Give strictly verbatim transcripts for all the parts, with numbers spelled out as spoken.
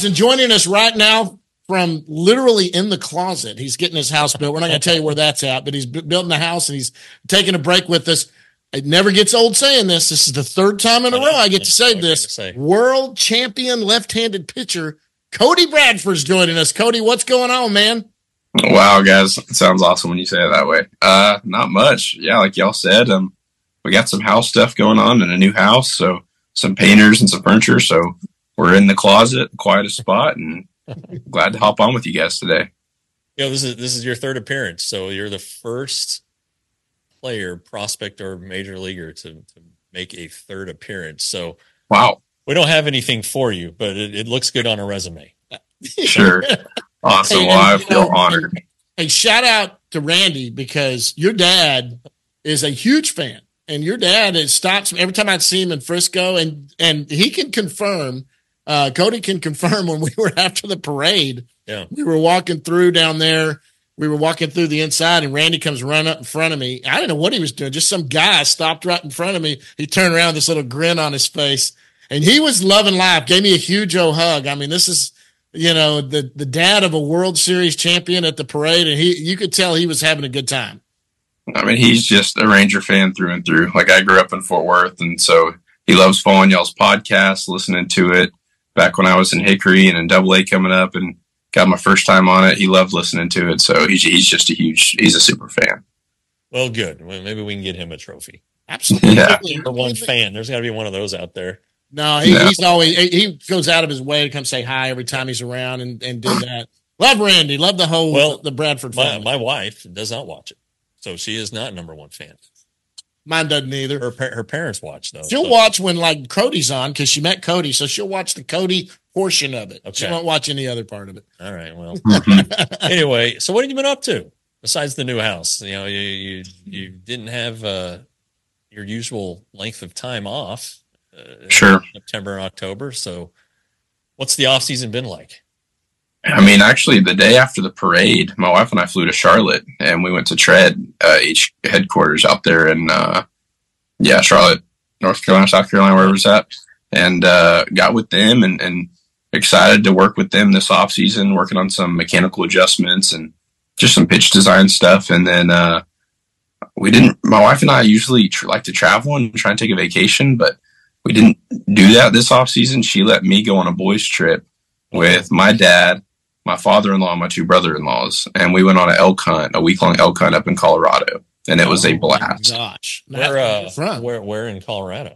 And joining us right now from literally in the closet, he's getting his house built. We're not going to tell you where that's at, but he's building the house and he's taking a break with us. It never gets old saying this. This is the third time in a row I get to say this. World champion left-handed pitcher Cody Bradford's joining us. Cody, what's going on, man? Wow, guys, it sounds awesome when you say it that way. Uh, not much. Yeah, like y'all said, um, we got some house stuff going on in a new house, so some painters and some furniture. So we're in the closet, quietest spot, and glad to hop on with you guys today. You know, this is this is your third appearance, so you're the first player, prospect, or major leaguer to, to make a third appearance. So wow, we don't have anything for you, but it, it looks good on a resume. Sure. Awesome. Hey, well, I and, feel you know, honored. Hey, shout out to Randy because your dad is a huge fan, and your dad is stops every time I see him in Frisco, and and he can confirm. Uh, Cody can confirm when we were after the parade. Yeah, we were walking through down there. We were walking through the inside, and Randy comes running up in front of me. I didn't know what he was doing. Just some guy stopped right in front of me. He turned around, this little grin on his face, and he was loving life. Gave me a huge old hug. I mean, this is. You know, the, the dad of a World Series champion at the parade, and he you could tell he was having a good time. I mean, he's just a Ranger fan through and through. Like, I grew up in Fort Worth, and so he loves following y'all's podcast, listening to it. Back when I was in Hickory and in Double A coming up and got my first time on it, he loved listening to it. So he's, he's just a huge, he's a super fan. Well, good. Well, maybe we can get him a trophy. Absolutely. Yeah. For one fan. There's got to be one of those out there. No, he, no, he's always he goes out of his way to come say hi every time he's around and, and did that. Love Randy, love the whole well, the Bradford family. My, my wife does not watch it, so she is not number one fan. Mine doesn't either. Her her parents watch though. She'll so. watch when like Cody's on because she met Cody, so she'll watch the Cody portion of it. Okay. She won't watch any other part of it. All right. Well, anyway, so what have you been up to besides the new house? You know, you you, you didn't have uh, your usual length of time off. Uh, sure. September and October. So what's the off season been like? I mean, actually the day after the parade, my wife and I flew to Charlotte and we went to Tread, uh, H headquarters out there in, uh, yeah, Charlotte, North Carolina, South Carolina, wherever it's at, and, uh, got with them and, and excited to work with them this off season, working on some mechanical adjustments and just some pitch design stuff. And then, uh, we didn't, my wife and I usually tr- like to travel and try and take a vacation, but we didn't do that this off season. She let me go on a boys trip with my dad, my father-in-law, and my two brother-in-laws. And we went on an elk hunt, a week long elk hunt up in Colorado. And it was a blast. Oh gosh. Where, uh, where, where in Colorado?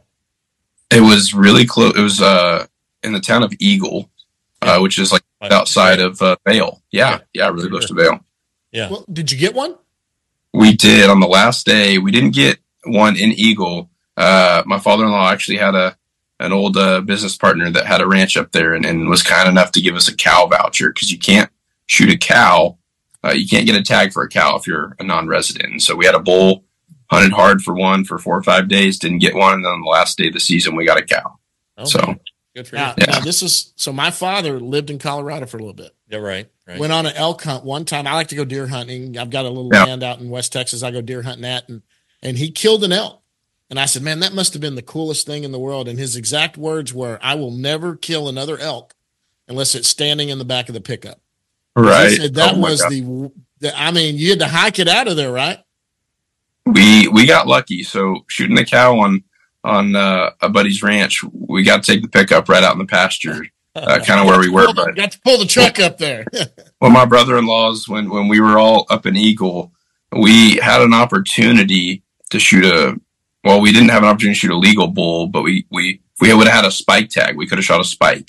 It was really close. It was, uh, in the town of Eagle, uh, which is like outside of, uh, Vail. Yeah. Yeah. Really close to Vail. Yeah. Well, did you get one? We did on the last day. We didn't get one in Eagle. Uh, my father-in-law actually had a, an old, uh, business partner that had a ranch up there and, and was kind enough to give us a cow voucher. Cause you can't shoot a cow. Uh, you can't get a tag for a cow if you're a non-resident. And so we had a bull, hunted hard for one for four or five days, didn't get one. And then on the last day of the season, we got a cow. Oh, so good for now, you. Yeah. Now this is, so my father lived in Colorado for a little bit. Yeah. Right. Right. Went on an elk hunt one time. I like to go deer hunting. I've got a little yeah. land out in West Texas. I go deer hunting at, and, and he killed an elk. And I said, man, that must have been the coolest thing in the world. And his exact words were, I will never kill another elk unless it's standing in the back of the pickup. Right. He said that oh was the, the, I mean, you had to hike it out of there, right? We, we got lucky. So shooting the cow on, on, uh, a buddy's ranch, we got to take the pickup right out in the pasture, uh, kind of where we were. But got to pull the truck up there. Well, my brother-in-laws, when, when we were all up in Eagle, we had an opportunity to shoot a, well, we didn't have an opportunity to shoot a legal bull, but we, we, if we would have had a spike tag, we could have shot a spike.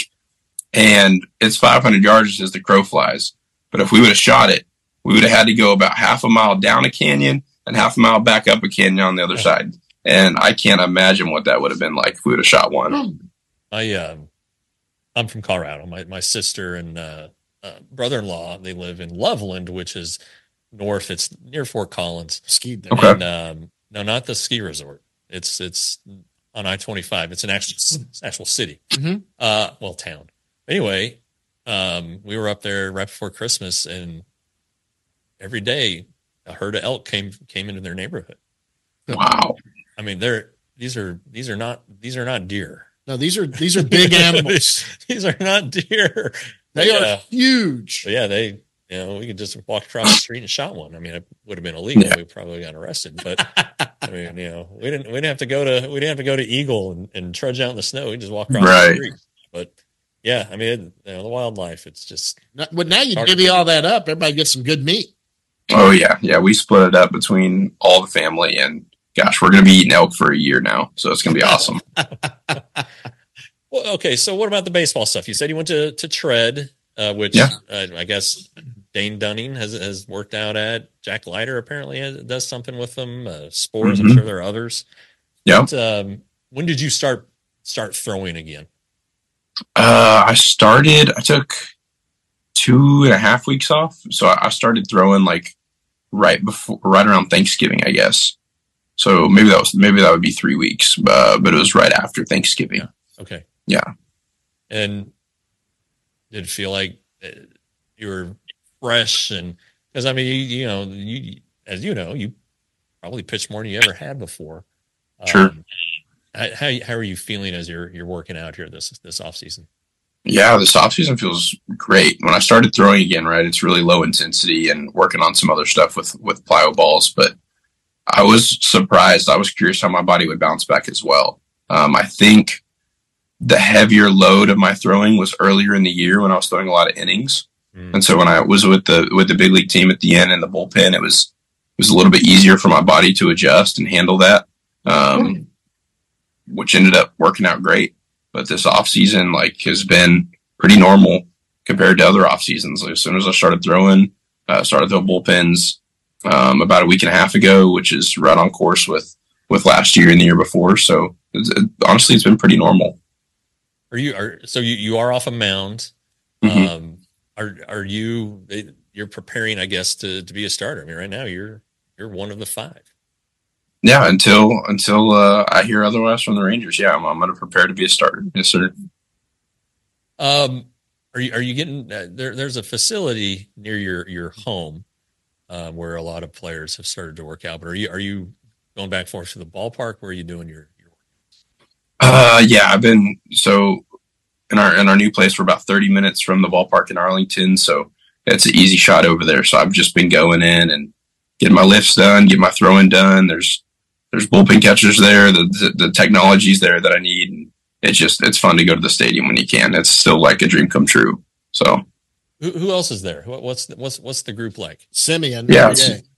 And it's five hundred yards as the crow flies. But if we would have shot it, we would have had to go about half a mile down a canyon and half a mile back up a canyon on the other side. And I can't imagine what that would have been like if we would have shot one. I, uh, I'm from Colorado. My, my sister and, uh, uh, brother-in-law, they live in Loveland, which is north. It's near Fort Collins. Skied there. Okay. And, um, no, not the ski resort. It's, it's on I twenty-five. It's an actual, it's an actual city. Mm-hmm. Uh, well, town. Anyway, um, we were up there right before Christmas, and every day a herd of elk came, came into their neighborhood. Wow. I mean, they're, these are, these are not, these are not deer. No, these are these are big animals. These are not deer. They yeah. are huge. But yeah, they, you know, we could just walk across the street and shot one. I mean, it would have been illegal. Yeah. We probably got arrested, but I mean, you know, we didn't, we didn't have to go to, we didn't have to go to Eagle and, and trudge out in the snow. We just walk across right. the street. But yeah, I mean, it, you know, the wildlife, it's just. But well, now you divvy all that up. Everybody gets some good meat. Oh yeah. Yeah. We split it up between all the family, and gosh, we're going to be eating elk for a year now. So it's going to be awesome. Well, okay. So what about the baseball stuff? You said you went to, to Tread, uh, which yeah. uh, I guess Dane Dunning has, has worked out at. Jack Leiter apparently has, does something with them. Uh, Spores. Mm-hmm. I'm sure there are others. Yeah. Um, when did you start, start throwing again? Uh, I started, I took two and a half weeks off. So I started throwing like right before, right around Thanksgiving, I guess. So maybe that was, maybe that would be three weeks, uh, but it was right after Thanksgiving. Yeah. Okay. Yeah. And did it feel like you were fresh? And because I mean, you, you know, you, as you know, you probably pitched more than you ever had before. Sure. Um, how, how are you feeling as you're, you're working out here this, this off season? Yeah, this off season feels great. When I started throwing again, right, it's really low intensity and working on some other stuff with, with plyo balls, but I was surprised. I was curious how my body would bounce back as well. Um, I think the heavier load of my throwing was earlier in the year when I was throwing a lot of innings. Mm. And so when I was with the, with the big league team at the end in the bullpen, it was, it was a little bit easier for my body to adjust and handle that. Um, mm. which ended up working out great. But this off season, like, has been pretty normal compared to other off seasons. Like, as soon as I started throwing, uh, started throwing bullpens, um, about a week and a half ago, which is right on course with, with last year and the year before. So it's, it, honestly, it's been pretty normal. Are you are so you, you are off a mound? Mm-hmm. Um, are are you you're preparing, I guess, to, to be a starter? I mean, right now you're you're one of the five. Yeah, until until uh, I hear otherwise from the Rangers. Yeah, I'm, I'm going to prepare to be a starter. Yes, sir. Um, are you are you getting uh, there? There's a facility near your your home uh, where a lot of players have started to work out. But are you are you going back and forth to the ballpark? Where are you doing your your Uh, yeah, I've been so in our in our new place. We're about thirty minutes from the ballpark in Arlington, so it's an easy shot over there. So I've just been going in and getting my lifts done, get my throwing done. There's there's bullpen catchers there. The, the the technology's there that I need. And it's just it's fun to go to the stadium when you can. It's still like a dream come true. So who, who else is there? What's what's what's the group like? Simeon. Yeah.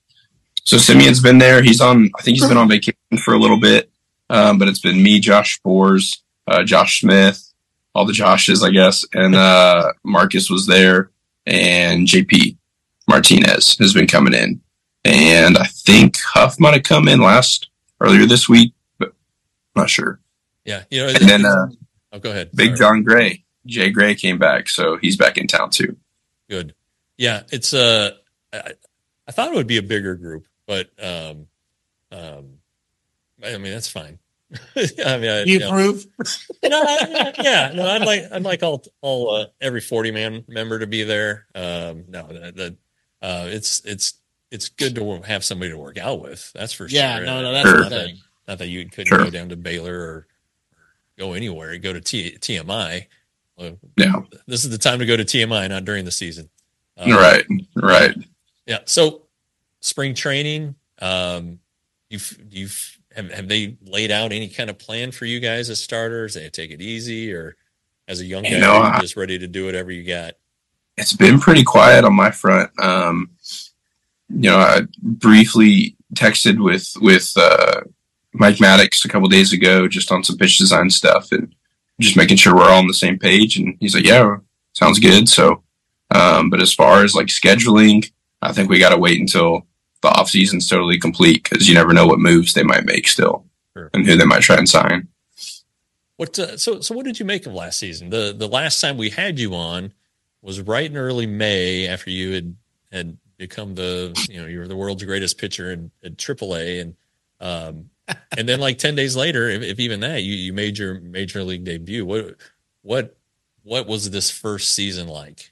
So Simeon's been there. He's on. I think he's been on vacation for a little bit. Um, but it's been me, Josh Spores, uh, Josh Smith, all the Joshes, I guess, and uh, Marcus was there, and J P Martinez has been coming in, and I think Huff might have come in last earlier this week, but I'm not sure. Yeah, you know. And then uh, oh, go ahead. Big Sorry. John Gray, Jay Gray came back, so he's back in town too. Good. Yeah, it's uh, I, I thought it would be a bigger group, but um, um. I mean, that's fine. I mean, I, you, you approve? Know, no, I, yeah, no, I'd like, I'd like all, all, uh, every forty man member to be there. Um, no, the, the uh, it's, it's, it's good to have somebody to work out with. That's for yeah, sure. No, no, that's sure. the thing. Not that you couldn't sure. go down to Baylor or, or go anywhere. Go to T, TMI. Well, yeah, this is the time to go to T M I, not during the season. Um, right, right. Yeah. So, spring training. Um, you've, you've. Have, have they laid out any kind of plan for you guys as starters? They take it easy, or as a young guy, you know, you're just ready to do whatever you got? It's been pretty quiet on my front. Um, you know, I briefly texted with with uh, Mike Maddox a couple days ago, just on some pitch design stuff, and just making sure we're all on the same page. And he's like, "Yeah, sounds good." So, um, but as far as like scheduling, I think we got to wait until the off season's totally complete, because you never know what moves they might make still, sure. and who they might try and sign. What uh, so so what did you make of last season? The the last time we had you on was right in early May, after you had had become the you know you were the world's greatest pitcher in, in triple A, and um and then like ten days later, if, if even that, you you made your major league debut. What what what was this first season like?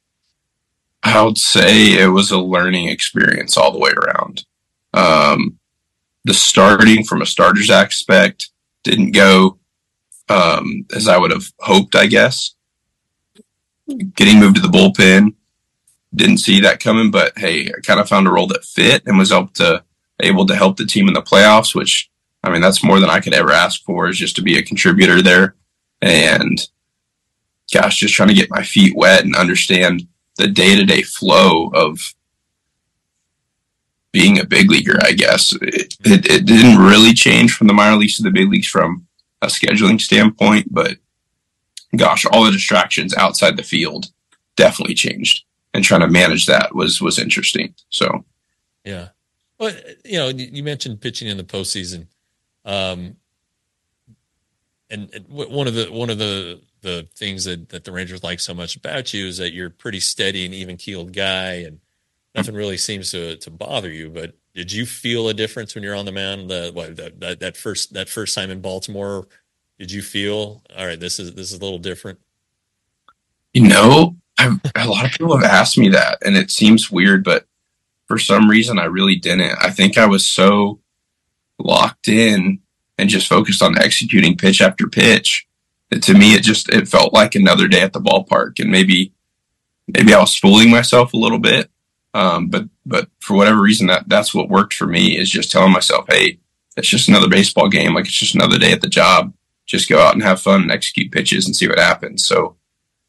I would say it was a learning experience all the way around. Um, the starting from a starter's aspect didn't go um, as I would have hoped, I guess. Getting moved to the bullpen, didn't see that coming, but hey, I kind of found a role that fit and was able to, able to help the team in the playoffs, which, I mean, that's more than I could ever ask for, is just to be a contributor there. And gosh, just trying to get my feet wet and understand the day-to-day flow of being a big leaguer, I guess. It, it, it didn't really change from the minor leagues to the big leagues from a scheduling standpoint, but gosh, all the distractions outside the field definitely changed, and trying to manage that was, was interesting. So, yeah. Well, you know, you mentioned pitching in the postseason. Um, and, and one of the, one of the, the things that, that the Rangers like so much about you is that you're a pretty steady and even keeled guy, and nothing really seems to, to bother you. But did you feel a difference when you're on the mound? The, what, that, that, that first, that first time in Baltimore, did you feel, all right, this is, this is a little different? You know, I've, a lot of people have asked me that, and it seems weird, but for some reason I really didn't. I think I was so locked in and just focused on executing pitch after pitch. To me, it just, it felt like another day at the ballpark, and maybe, maybe I was fooling myself a little bit. Um, but, but for whatever reason, that that's what worked for me, is just telling myself, hey, it's just another baseball game. Like, it's just another day at the job. Just go out and have fun and execute pitches and see what happens. So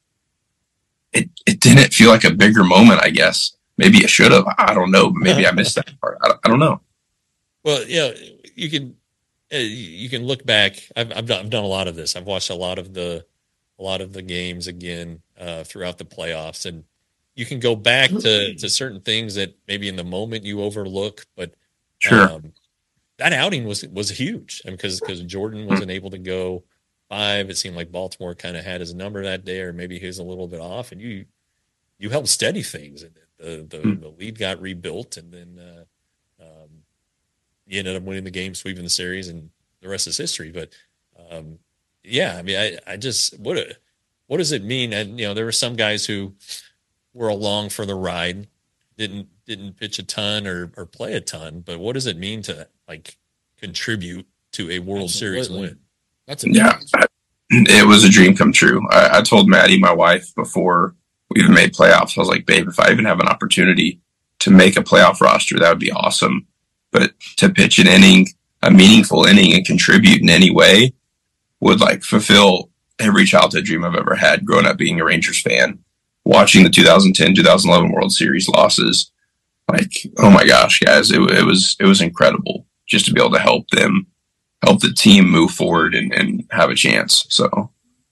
it, it didn't feel like a bigger moment, I guess. Maybe it should have. I don't know. Maybe I missed that part. I, I don't know. Well, you know, you can, uh, you can look back. I've, I've done, I've done a lot of this. I've watched a lot of the, a lot of the games again, uh, throughout the playoffs, and you can go back to, to certain things that maybe in the moment you overlook, but, Sure. um, that outing was, was huge. I mean, cause, cause Jordan wasn't able to go five. It seemed like Baltimore kind of had his number that day, or maybe he was a little bit off, and you, you helped steady things. And the, the, mm. the lead got rebuilt, and then, uh, um, you ended up winning the game, sweeping the series, and the rest is history. But, um, yeah, I mean, I, I just, what, a, what does it mean? And, you know, there were some guys who were along for the ride, didn't, didn't pitch a ton or, or play a ton, but what does it mean to, like, contribute to a World Absolutely. Series win? That's a yeah, it was a dream come true. I, I told Maddie, my wife, before we even made playoffs, I was like, babe, if I even have an opportunity to make a playoff roster, that would be awesome. But to pitch an inning, a meaningful inning, and contribute in any way would, like, fulfill every childhood dream I've ever had growing up being a Rangers fan. Watching the two thousand ten, two thousand eleven World Series losses, like, oh my gosh, guys, it, it was, it was incredible just to be able to help them, help the team move forward and, and have a chance. So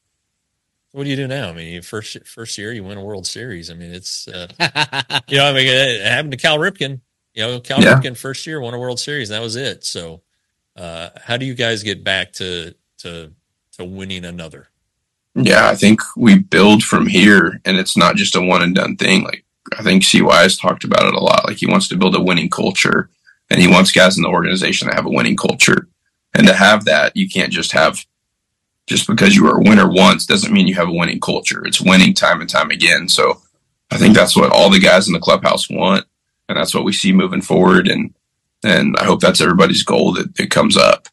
what do you do now? I mean, first, first year you win a World Series. I mean, it's, uh, you know, I mean, it happened to Cal Ripken, you know, Cal yeah. Ripken first year won a World Series, and that was it. So, uh, how do you guys get back to, to, to winning another? Yeah, I think we build from here, and it's not just a one and done thing. Like, I think C Y has talked about it a lot. Like, he wants to build a winning culture, and he wants guys in the organization to have a winning culture. And to have that, you can't just have, just because you were a winner once doesn't mean you have a winning culture. It's winning time and time again. So I think that's what all the guys in the clubhouse want, and that's what we see moving forward. And, and I hope that's everybody's goal, that it comes up.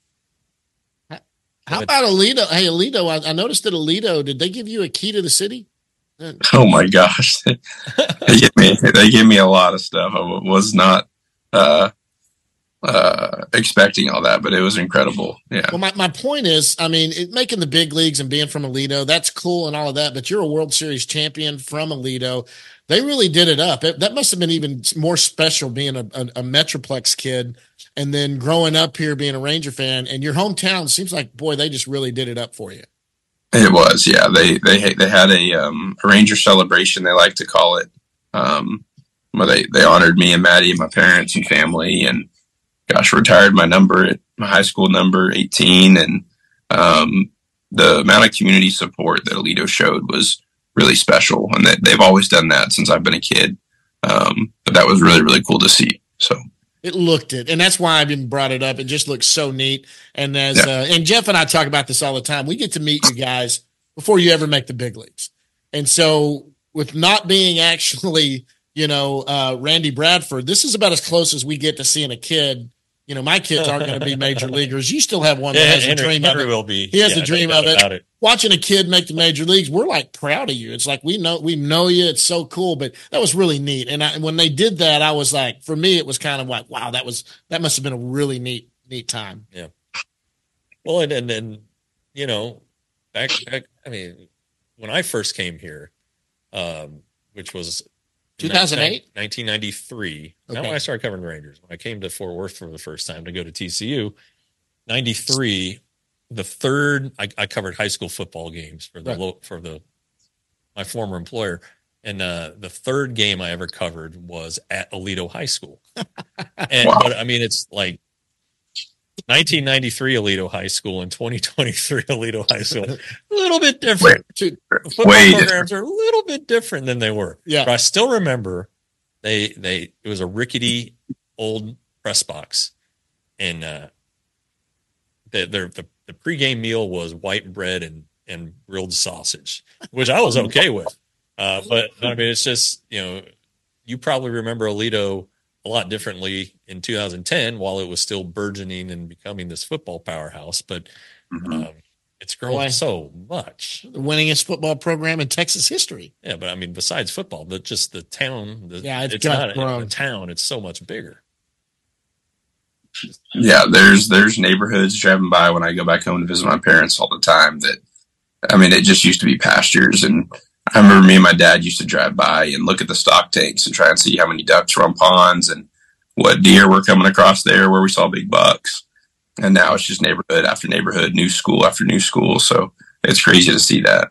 How about Alito? Hey, Alito, I, I noticed that Alito, did they give you a key to the city? Oh my gosh. they, gave me, they gave me a lot of stuff. I was not uh, uh, expecting all that, but it was incredible. Yeah. Well, my, my point is, I mean, it, making the big leagues and being from Alito, that's cool and all of that, but you're a World Series champion from Alito. They really did it up. It, that must have been even more special being a, a, a Metroplex kid, and then growing up here being a Ranger fan, and your hometown seems like, boy, they just really did it up for you. It was, yeah. They they they had a, um, a Ranger celebration, they like to call it, um, where they, they honored me and Maddie and my parents and family, and gosh, retired my number, my high school number, eighteen, and um, the amount of community support that Alito showed was really special, and that they've always done that since I've been a kid. Um, but that was really, really cool to see. So it looked it, and that's why I've been brought it up. It just looks so neat. And as yeah. uh, and Jeff and I talk about this all the time. We get to meet you guys before you ever make the big leagues, and so with not being actually, you know, uh, Randy Bradford, this is about as close as we get to seeing a kid you know, my kids aren't going to be major leaguers. You still have one that Yeah, has Henry, a dream Henry of it. will be. He has yeah, a dream no of doubt it. about it. Watching a kid make the major leagues, we're like proud of you. It's like we know we know you. It's so cool. But that was really neat. And I, when they did that, I was like, for me, it was kind of like, wow, that was that must have been a really neat neat time. Yeah. Well, and and, and you know, back back. I mean, when I first came here, um, which was two thousand eight, nineteen ninety-three. Okay. Not when I started covering the Rangers. When I came to Fort Worth for the first time to go to T C U, ninety-three. The third, I, I covered high school football games for the Right. lo- for the my former employer, and uh, the third game I ever covered was at Aledo High School. And Wow. but I mean, it's like nineteen ninety-three Aledo High School and twenty twenty-three Aledo High School, a little bit different. Two- Football Way programs are a little bit different than they were. Yeah. But I still remember they they it was a rickety old press box, and uh, the the the, the pregame meal was white bread and and grilled sausage, which I was okay with. Uh, but I mean, it's just, you know, you probably remember Aledo a lot differently in two thousand ten while it was still burgeoning and becoming this football powerhouse. But Mhm. um, it's grown Boy. so much. the winningest football program in Texas history. Yeah, but I mean, besides football, but just the town. The, Yeah, it's it's got not grown. a town. It's so much bigger. Yeah, there's there's neighborhoods driving by when I go back home to visit my parents all the time that, I mean, it just used to be pastures. And I remember me and my dad used to drive by and look at the stock tanks and try and see how many ducks were on ponds and what deer were coming across there where we saw big bucks. And now it's just neighborhood after neighborhood, new school after new school. So it's crazy to see that.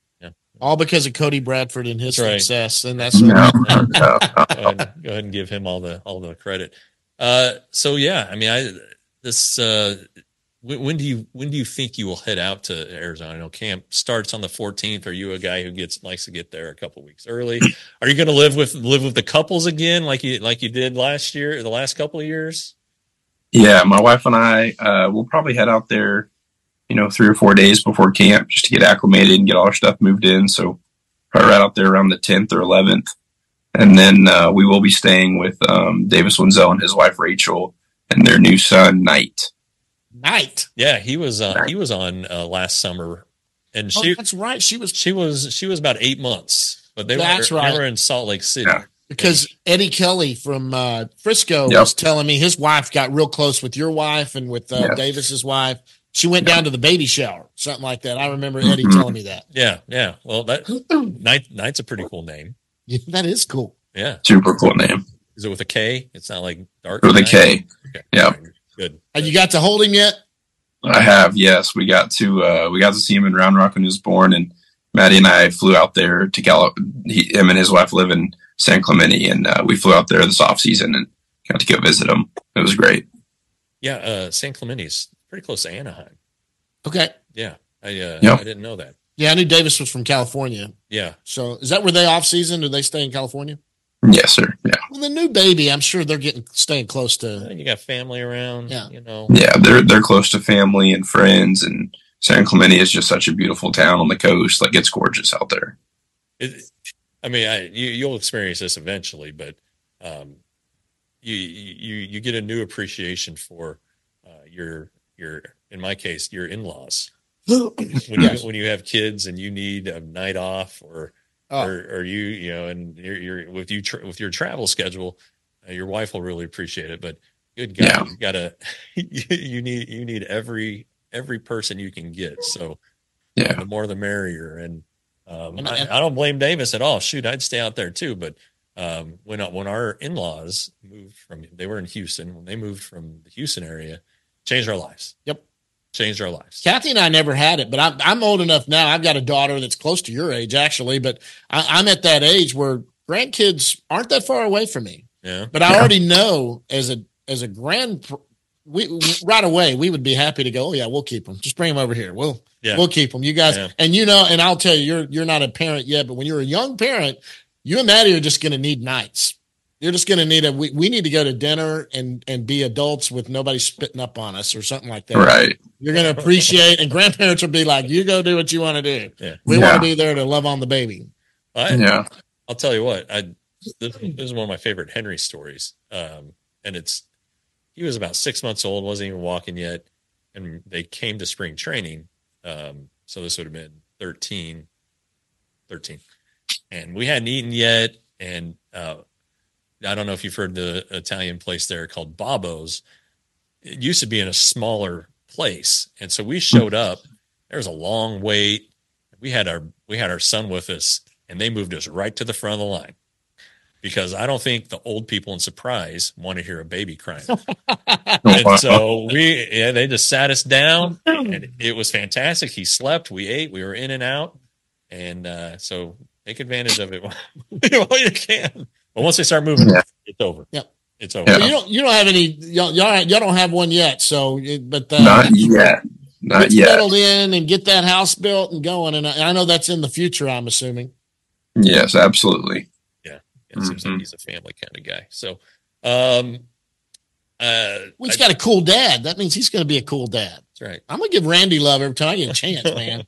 All because of Cody Bradford and his That's right. success. And that's No, what, no, no. go, ahead, go ahead and give him all the all the credit. Uh, so yeah, I mean, I this uh, when, when do you when do you think you will head out to Arizona? I know camp starts on the fourteenth. Are you a guy who gets likes to get there a couple weeks early? Are you going to live with live with the couples again, like you like you did last year, or the last couple of years? Yeah, my wife and I uh, will probably head out there, you know, three or four days before camp just to get acclimated and get all our stuff moved in. So probably right out there around the tenth or eleventh. And then uh, we will be staying with um, Davis Wenzel and his wife, Rachel, and their new son, Knight. night. Yeah, he was uh, he was on uh, last summer, and Oh, she that's right. She was she was she was about eight months, but they That's were right. they were in Salt Lake City. Yeah. because Eddie Kelly from uh, Frisco Yep. was telling me his wife got real close with your wife and with uh, Yes. Davis's wife. She went down to the baby shower, something like that. I remember Eddie Mhm. telling me that. Yeah, yeah. Well, that Knight Knight's a pretty cool name. Yeah, that is cool. Yeah, Super cool name. is it with a K? It's not like Dark With a Knight? K. Okay. Yep. Good. Have you got to hold him yet? I have, yes. We got to uh, we got to see him in Round Rock when he was born, and Maddie and I flew out there to Cal. He, him and his wife live in San Clemente, and uh, we flew out there this off season and got to go visit him. It was great. Yeah, uh, San Clemente's pretty close to Anaheim. Okay. Yeah, I uh, Yep. I didn't know that. Yeah, I knew Davis was from California. Yeah, So is that where they off season? Do they stay in California? Yes, sir. Yeah, Well, the new baby, I'm sure they're getting staying close to. you got family around. Yeah. you know. yeah. They're they're close to family and friends, and San Clemente is just such a beautiful town on the coast. Like, it's gorgeous out there. It, I mean, I you you'll experience this eventually, but um, you you you get a new appreciation for uh, your your in my case your in laws. When Yes. you when you have kids and you need a night off, or Oh. or, or you you know, and you're, you're with you tra- with your travel schedule, uh, your wife will really appreciate it. But good God, Yeah. you gotta you, you need you need every every person you can get. So Yeah, the more the merrier. And um, And- I, and- I don't blame Davis at all. Shoot, I'd stay out there too. But um, when when our in laws moved from, they were in Houston. When they moved from the Houston area, changed our lives. Yep. Changed our lives. Kathy and I never had it, but I'm, I'm old enough now. I've got a daughter that's close to your age, actually, but I, I'm at that age where grandkids aren't that far away from me. Yeah. But I Yeah. already know as a as a grand, we right away we would be happy to go. Oh yeah, we'll keep them. Just bring them over here. We'll Yeah. we'll keep them. You guys, Yeah. and you know, and I'll tell you, you're you're not a parent yet, but when you're a young parent, you and Maddie are just going to need nights. You're just going to need a. We, we need to go to dinner and and be adults with nobody spitting up on us or something like that. right. You're going to appreciate, and grandparents will be like, "You go do what you want to do. Yeah. We Yeah. want to be there to love on the baby." I, Yeah, I'll tell you what. I this, this is one of my favorite Henry stories, um, and it's he was about six months old, wasn't even walking yet. And they came to spring training. Um, so this would have been thirteen, thirteen. And we hadn't eaten yet. And uh, I don't know if you've heard the Italian place there called Babbo's. It used to be in a smaller place. And so we showed up. There was a long wait. We had our we had our son with us, and they moved us right to the front of the line. Because I don't think the old people in Surprise want to hear a baby crying. And so we, yeah, they just sat us down, and it was fantastic. He slept, we ate, we were in and out, and uh, so take advantage of it while you can. But once they start moving, yeah. it's over. Yep, it's over. Yeah. You don't, you don't have any, y'all, y'all, y'all don't have one yet. So, but uh, not yet, not get yet. Settled in and get that house built and going, and I, I know that's in the future. I'm assuming. Yes, absolutely. It mm-hmm. seems like he's a family kind of guy. So, um, uh, well, he's I, got a cool dad. That means he's going to be a cool dad. That's right. I'm going to give Randy love every time I get a chance, man.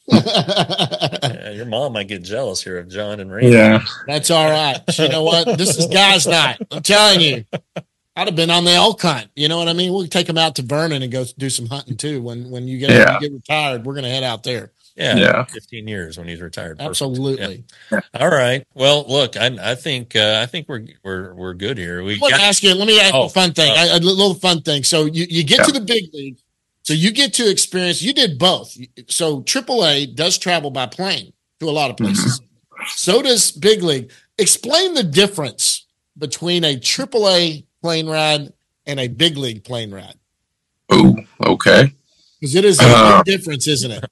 Yeah, your mom might get jealous here of John and Randy. Yeah. That's all right. You know what? This is guys' night. I'm telling you. I'd have been on the elk hunt. You know what I mean? We'll take them out to Vernon and go do some hunting too. When, when you get, yeah. you get retired, we're going to head out there. Yeah, yeah, fifteen years when he's retired. Perfect. Absolutely. Yeah. All right. Well, look, I, I think uh, I think we're we're we're good here. We let me ask you. Let me ask you oh, a fun thing. uh, a, a little fun thing. So you, you get yeah. to the big league. So you get to experience. You did both. So triple A does travel by plane to a lot of places. Mm-hmm. So does big league. Explain the difference between a triple A plane ride and a big league plane ride. Oh, okay. Because it is a uh, big difference, isn't it?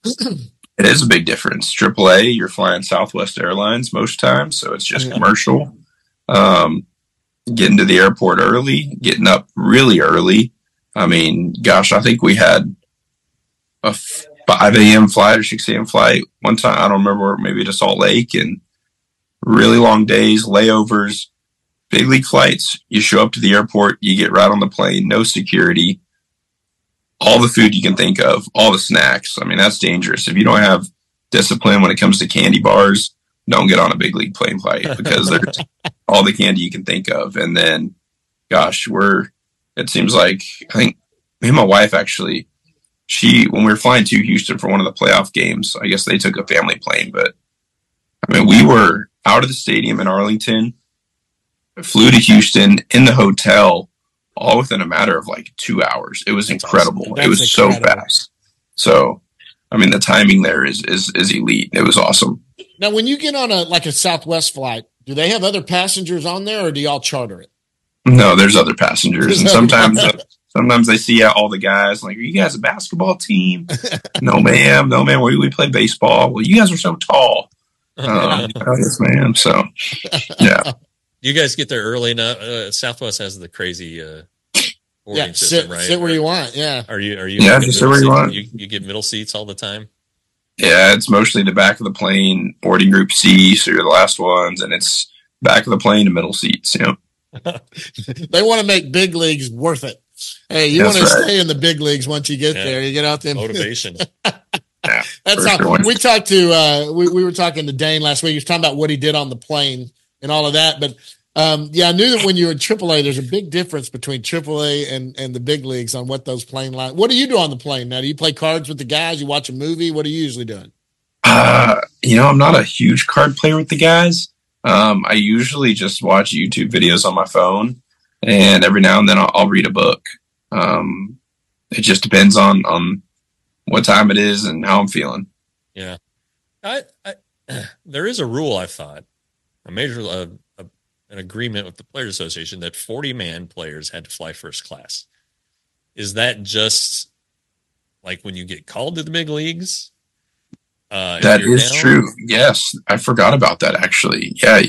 It is a big difference. triple A, you're flying Southwest Airlines most times, so it's just commercial. Um, getting to the airport early, getting up really early. I mean, gosh, I think we had a five a.m. flight or six a.m. flight one time. I don't remember, maybe to Salt Lake, and really long days, layovers, big league flights. You show up to the airport, you get right on the plane, no security. All the food you can think of, all the snacks. I mean, that's dangerous. If you don't have discipline when it comes to candy bars, don't get on a big league plane flight because there's all the candy you can think of. And then, gosh, we're, it seems like, I think me and my wife actually, she, when we were flying to Houston for one of the playoff games, I guess they took a family plane, but I mean, we were out of the stadium in Arlington, flew to Houston in the hotel, all within a matter of like two hours. It was That's incredible. Awesome. It was incredible. So fast. So, I mean, the timing there is, is, is elite. It was awesome. Now, when you get on a, like a Southwest flight, do they have other passengers on there or do y'all charter it? No, there's other passengers. And sometimes, uh, sometimes they see all the guys like, are you guys a basketball team? No, ma'am. No, ma'am. We, we play baseball. Well, you guys are so tall. Um, oh, yes, ma'am. So, yeah. You guys get there early enough. Uh, Southwest has the crazy uh, boarding yeah, system, sit, right? sit where you want. Yeah. Are you? Are you? Yeah, just sit where you want. You, you get middle seats all the time. Yeah, it's mostly the back of the plane, boarding group C, so you're the last ones, and it's back of the plane to middle seats. You know, they want to make big leagues worth it. Hey, you want to right. stay in the big leagues once you get yeah. there. You get out there. Motivation. Yeah, that's how sure. we talked to. Uh, we we were talking to Dane last week. He was talking about what he did on the plane and all of that, but. Um, yeah, I knew that when you were in triple A, there's a big difference between triple A and, and the big leagues on what those plane lines. What do you do on the plane now? Do you play cards with the guys? You watch a movie? What are you usually doing? Uh, you know, I'm not a huge card player with the guys. Um, I usually just watch YouTube videos on my phone, and every now and then I'll, I'll read a book. Um, it just depends on on what time it is and how I'm feeling. Yeah, I, I there is a rule. I thought a major. Uh, an agreement with the Players Association that forty man players had to fly first class. Is that just like when you get called to the big leagues? Uh, that is down? True. Yes. I forgot about that actually. Yeah.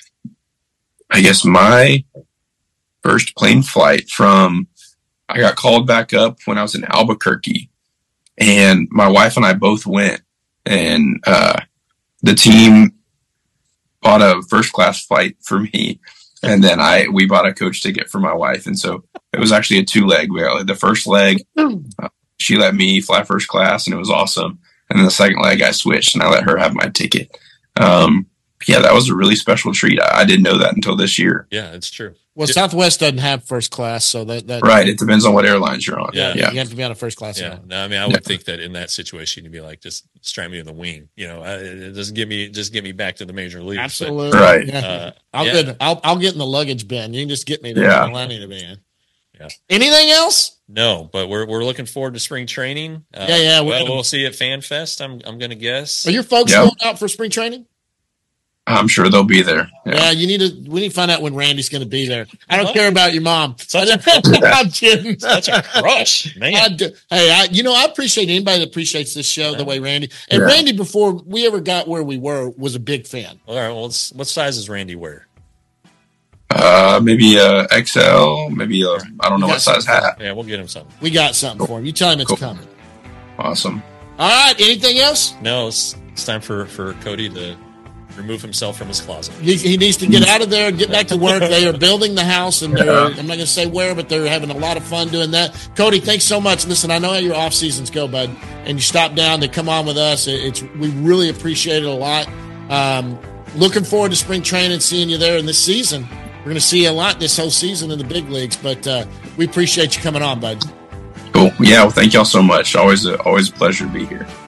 I guess my first plane flight from, I got called back up when I was in Albuquerque, and my wife and I both went, and uh, the team bought a first class flight for me, and then I we bought a coach ticket for my wife, and so it was actually a two leg. We had the first leg, uh, she let me fly first class, and it was awesome. And then the second leg, I switched, and I let her have my ticket. Um, yeah, that was a really special treat. I, I didn't know that until this year. Yeah, it's true. Well, Southwest doesn't have first class, so that, that right. It depends on what airlines you're on. Yeah. Yeah. You have to be on a first class. Yeah. airline. No, I mean, I would Yeah. think that in that situation, you'd be like, just strap me in the wing. You know, uh, it doesn't give me, just get me back to the major leagues. Absolutely. Right. Yeah. Uh, I'll yeah. get I'll I'll get in the luggage bin. You can just get me there. Yeah. I need to be in. Yeah. Anything else? No, but we're we're looking forward to spring training. Uh, Yeah, yeah, we're Well, gonna- we'll see you at Fan Fest. I'm I'm going to guess. Are your folks Yeah. going out for spring training? I'm sure they'll be there. Yeah. Yeah. you need to. We need to find out when Randy's going to be there. I don't What? care about your mom. Such a- I'm kidding. Such a crush, I man. do. Hey, I, you know, I appreciate anybody that appreciates this show the way Randy and Yeah. Randy before we ever got where we were was a big fan. All right. Well, let's, what size does Randy wear? Uh, maybe uh X L, maybe a, I don't know You what got size something. hat. Yeah, we'll get him something. We got something for him. You tell him it's Cool. coming. Awesome. All right. Anything else? No, it's, it's time for, for Cody to remove himself from his closet. He, he needs to get out of there and get back to work. They are building the house, and they're, Yeah. I'm not going to say where, but they're having a lot of fun doing that. Cody, thanks so much. Listen, I know how your off seasons go, bud, and you stop down to come on with us. It- It's we really appreciate it a lot. Um, looking forward to spring training, seeing you there in this season. We're going to see you a lot this whole season in the big leagues, but uh, we appreciate you coming on, bud. Cool. Yeah. Well, thank y'all so much. Always a, always a pleasure to be here.